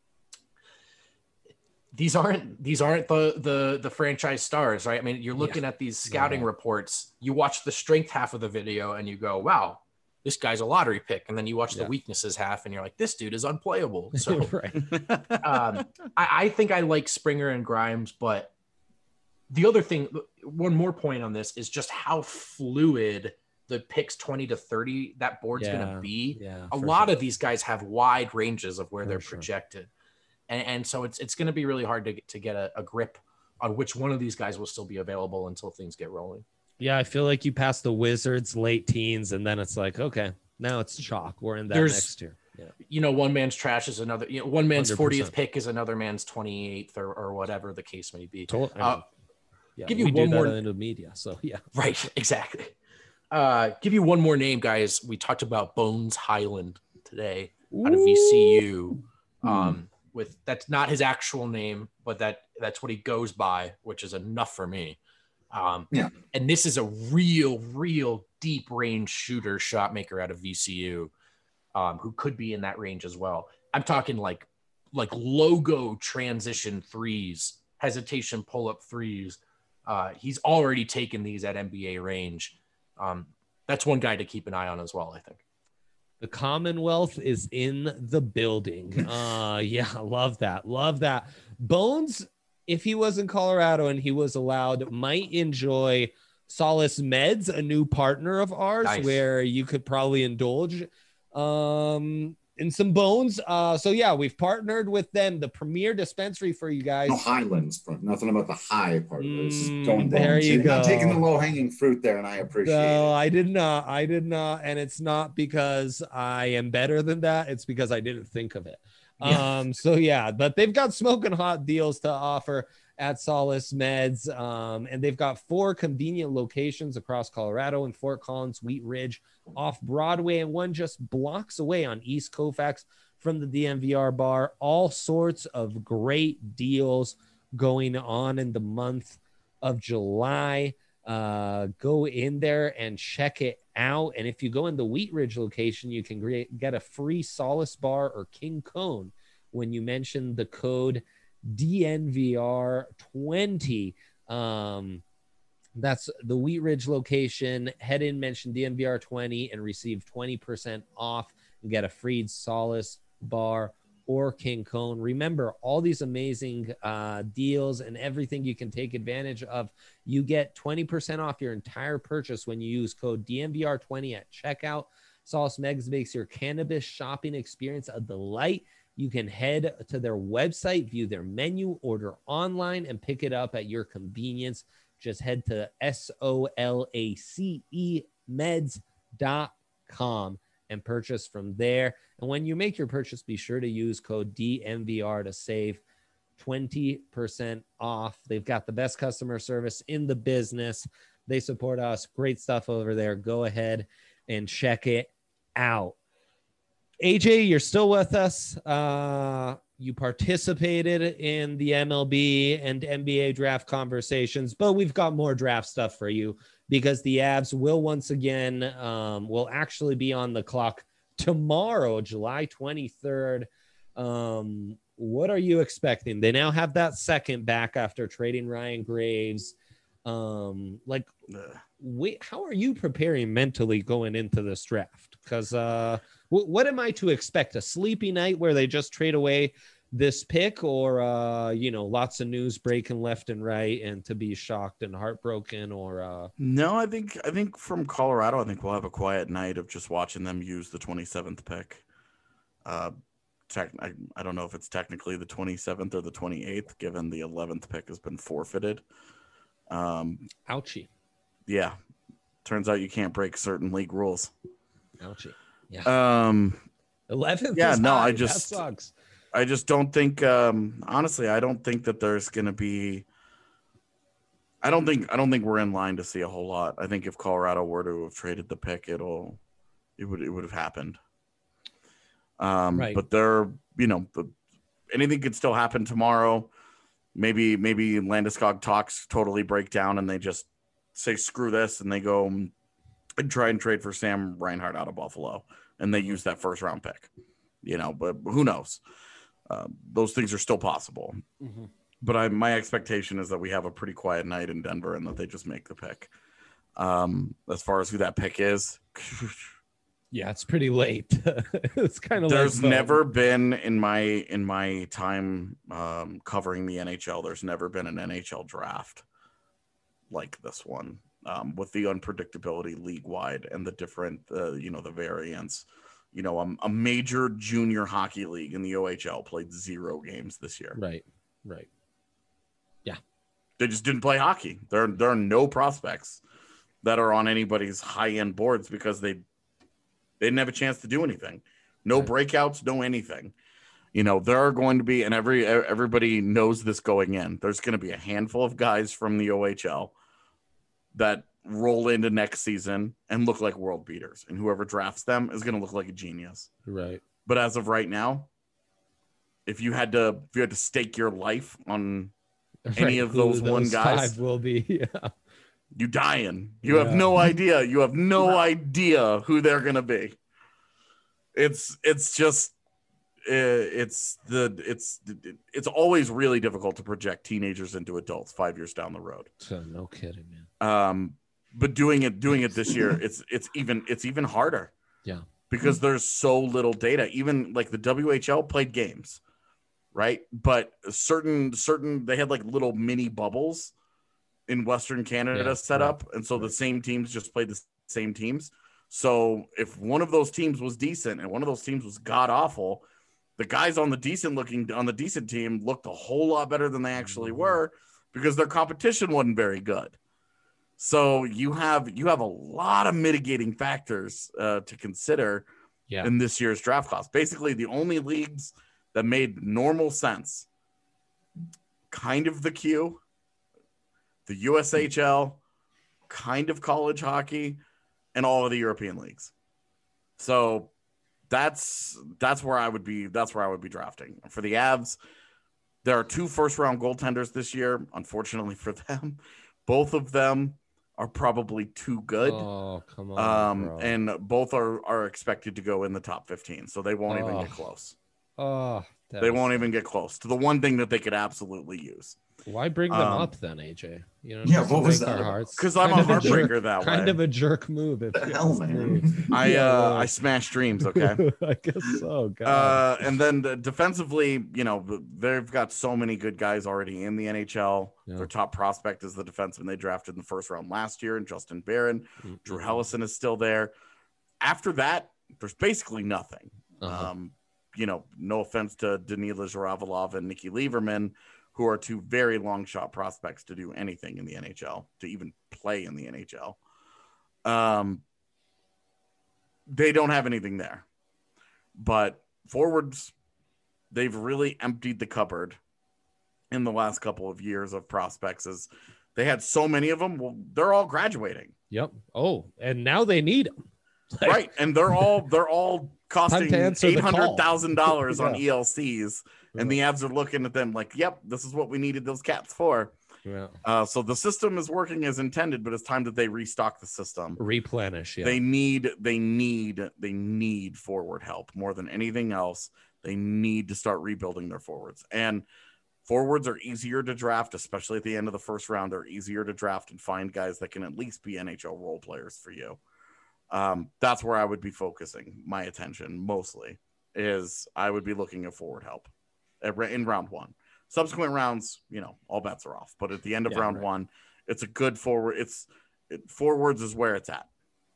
these aren't these aren't the the the franchise stars, right? I mean, you're looking yeah. at these scouting yeah. reports. You watch the strength half of the video, and you go, "Wow, this guy's a lottery pick," and then you watch yeah. the weaknesses half and you're like, this dude is unplayable. So right. um, I, I think I like Springer and Grimes, but the other thing, one more point on this is just how fluid the picks twenty to thirty, that board's yeah. going to be. Yeah, a lot sure. of these guys have wide ranges of where for they're sure. projected. And, and so it's, it's going to be really hard to, to get a, a grip on which one of these guys will still be available until things get rolling. Yeah, I feel like you pass the Wizards late teens, and then it's like, okay, now it's chalk. We're in that There's, next year. Yeah. You know, one man's trash is another. You know, one man's one hundred percent. fortieth pick is another man's twenty-eighth, or, or whatever the case may be. Totally. Uh, yeah, give you we one do more that in the media. So yeah, right, exactly. Uh, give you one more name, guys. We talked about Bones Highland today out of V C U. Um, with that's not his actual name, but that that's what he goes by, which is enough for me. Um, Yeah. And this is a real, real deep range shooter, shot maker out of V C U, um, who could be in that range as well. I'm talking like like logo transition threes, hesitation pull up threes. Uh, he's already taken these at N B A range. Um, that's one guy to keep an eye on as well, I think. The Commonwealth is in the building. Uh, yeah, love that. Love that. Bones, if he was in Colorado and he was allowed, might enjoy Solace Meds, a new partner of ours, Nice. where you could probably indulge um, in some Bones. Uh, so, yeah, we've partnered with them, the premier dispensary for you guys. No Highlands, bro. Nothing about the high part of it. This is Mm, going there bones. you You're not go. taking the low hanging fruit there, and I appreciate No, it. I did not. I did not. And it's not because I am better than that. It's because I didn't think of it. Yeah. Um, so yeah, but they've got smoking hot deals to offer at Solace Meds. Um, and they've got four convenient locations across Colorado and Fort Collins, Wheat Ridge, off Broadway, and one just blocks away on East Colfax from the D N V R bar. All sorts of great deals going on in the month of July. Uh, go in there and check it out. And if you go in the Wheat Ridge location, you can re- get a free Solace bar or King Cone when you mention the code D N V R twenty. Um, that's the Wheat Ridge location. Head in, mention D N V R twenty, and receive twenty percent off and get a free Solace bar or King Cone. Remember, all these amazing uh, deals and everything you can take advantage of. You get twenty percent off your entire purchase when you use code D N V R twenty at checkout. Solace Meds makes your cannabis shopping experience a delight. You can head to their website, view their menu, order online, and pick it up at your convenience. Just head to S O L A C E meds dot com and purchase from there. And when you make your purchase, be sure to use code D N V R to save twenty percent off. They've got the best customer service in the business. They support us. Great stuff over there. Go ahead and check it out. A J, you're still with us. Uh, you participated in the M L B and N B A draft conversations, but we've got more draft stuff for you because the Avs will once again, um, will actually be on the clock tomorrow, July twenty-third. Um, what are you expecting? They now have that second back after trading Ryan Graves. Um, like, wait, how are you preparing mentally going into this draft? Because uh, w- what am I to expect? A sleepy night where they just trade away this pick, or uh, you know, lots of news breaking left and right, and to be shocked and heartbroken, or uh... No, I think I think from Colorado, I think we'll have a quiet night of just watching them use the twenty-seventh pick. Uh, tech, I, I don't know if it's technically the twenty-seventh or the twenty-eighth, given the eleventh pick has been forfeited. Um, Ouchie. Yeah, turns out you can't break certain league rules. Ouchie. Yeah. Um, eleventh. Yeah, is no, high. I just that sucks. I just don't think. Um, honestly, I don't think that there's going to be. I don't think I don't think we're in line to see a whole lot. I think if Colorado were to have traded the pick, it'll it would it would have happened. Um, Right. But they're you know the, anything could still happen tomorrow. Maybe maybe Landeskog talks totally break down and they just say screw this and they go and try and trade for Sam Reinhart out of Buffalo and they use that first round pick. You know, but who knows? Uh, those things are still possible. Mm-hmm. But I, my expectation is that we have a pretty quiet night in Denver and that they just make the pick. Um, as far as who that pick is, Yeah, it's pretty late. It's kind of there's like never been in my in my time um, covering the N H L. There's never been an N H L draft like this one, um, with the unpredictability league wide and the different, uh, you know, the variants. You know, a, a major junior hockey league in the O H L played zero games this year. right, right. They just didn't play hockey. There, there are no prospects that are on anybody's high-end boards because they they didn't have a chance to do anything. No Right. breakouts, no anything. You know, there are going to be, and every everybody knows this going in, there's going to be a handful of guys from the O H L that roll into next season and look like world beaters. And whoever drafts them is going to look like a genius. Right. But as of right now, if you had to if you had to stake your life on any Right, of who those one guys, five will be. Yeah. You dying. You Yeah. have no idea. You have no idea who they're gonna be. It's it's just it's the it's it's always really difficult to project teenagers into adults five years down the road. So no kidding, man. Um, but doing it doing it this year, it's it's even it's even harder. Yeah, because there's so little data. Even like the W H L played games, right? But certain certain they had like little mini bubbles in Western Canada Yeah, set right, up, and so right. the same teams just played the same teams. So if one of those teams was decent and one of those teams was god awful, the guys on the decent looking on the decent team looked a whole lot better than they actually Mhm. were because their competition wasn't very good. So you have you have a lot of mitigating factors uh, to consider Yeah. in this year's draft class. Basically, the only leagues that made normal sense, kind of the Q, the U S H L, kind of college hockey, and all of the European leagues. So that's that's where I would be. That's where I would be drafting for the Avs. There are two first round goaltenders this year. Unfortunately for them, both of them are probably too good. Oh, come on, Um, bro. and both are are expected to go in the top fifteen, so they won't even Oh. get close. oh, They won't even get close to the one thing that they could absolutely use. Why bring them um, up then, A J? You know, Yeah, just to what was break our that? hearts. Because I'm Kind a of heartbreaker jerk- that Kind way. of a jerk move. If The you hell, ask me. man. I Yeah, uh, well. I smash dreams. Okay. I guess so. God. Uh, and then the defensively, you know, they've got so many good guys already in the N H L. Yeah. Their top prospect is the defenseman they drafted in the first round last year, and Justin Barron. Mm-mm. Drew Hellison is still there. After that, there's basically nothing. Uh-huh. Um, you know, no offense to Danila Zharavalov and Nikki Lieberman, who are two very long shot prospects to do anything in the N H L, to even play in the N H L. Um, they don't have anything there. But forwards, they've really emptied the cupboard in the last couple of years of prospects. As they had so many of them, well, they're all graduating. Yep. Oh, and now they need them. Right. And they're all they're all costing to answer the eight call. hundred thousand dollars on Yeah. E L Cs. And the Avs are looking at them like, yep, this is what we needed those caps for. Yeah. Uh, so the system is working as intended, but it's time that they restock the system. Replenish. Yeah. They need, they need, they need forward help more than anything else. They need to start rebuilding their forwards. And forwards are easier to draft, especially at the end of the first round. They're easier to draft and find guys that can at least be N H L role players for you. Um, that's where I would be focusing my attention mostly. Is I would be looking at forward help in round one. Subsequent rounds, you know, all bets are off. But at the end of Yeah, round right. one, it's a good forward. It's it, forwards is where it's at.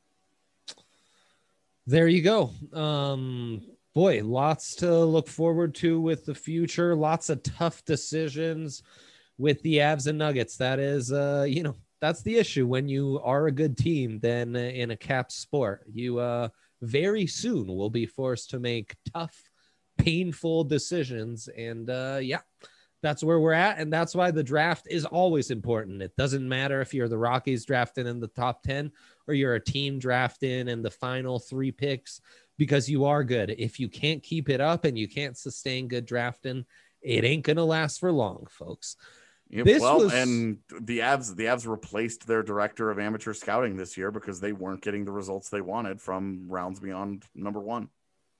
There you go. Um, boy, lots to look forward to with the future. Lots of tough decisions with the Avs and Nuggets. That is, uh, you know, that's the issue when you are a good team. Then uh, in a cap sport, you uh, very soon will be forced to make tough, painful decisions. And uh, yeah. That's where we're at, and that's why the draft is always important. It doesn't matter if you're the Rockies drafting in the top ten or you're a team drafting in the final three picks, because you are good. If you can't keep it up and you can't sustain good drafting, it ain't going to last for long, folks. Yep, This well, was- and the Avs, the Avs replaced their director of amateur scouting this year because they weren't getting the results they wanted from rounds beyond number one.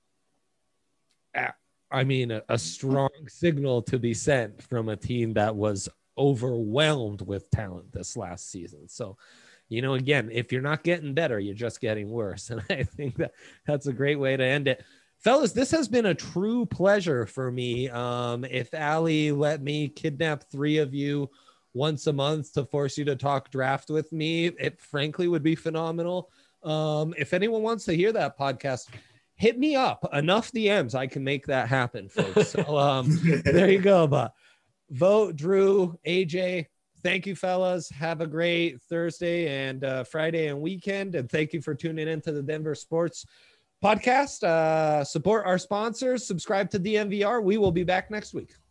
I mean, a, a strong signal to be sent from a team that was overwhelmed with talent this last season. So, you know, again, if you're not getting better, you're just getting worse. And I think that that's a great way to end it. Fellas, this has been a true pleasure for me. Um, if Allie let me kidnap three of you once a month to force you to talk draft with me, it frankly would be phenomenal. Um, if anyone wants to hear that podcast, hit me up. Enough D Ms. I can make that happen, folks. So um, there you go. But vote, Drew, A J. Thank you, fellas. Have a great Thursday and uh, Friday and weekend. And thank you for tuning into the Denver Sports Podcast. Uh, support our sponsors. Subscribe to D N V R. We will be back next week.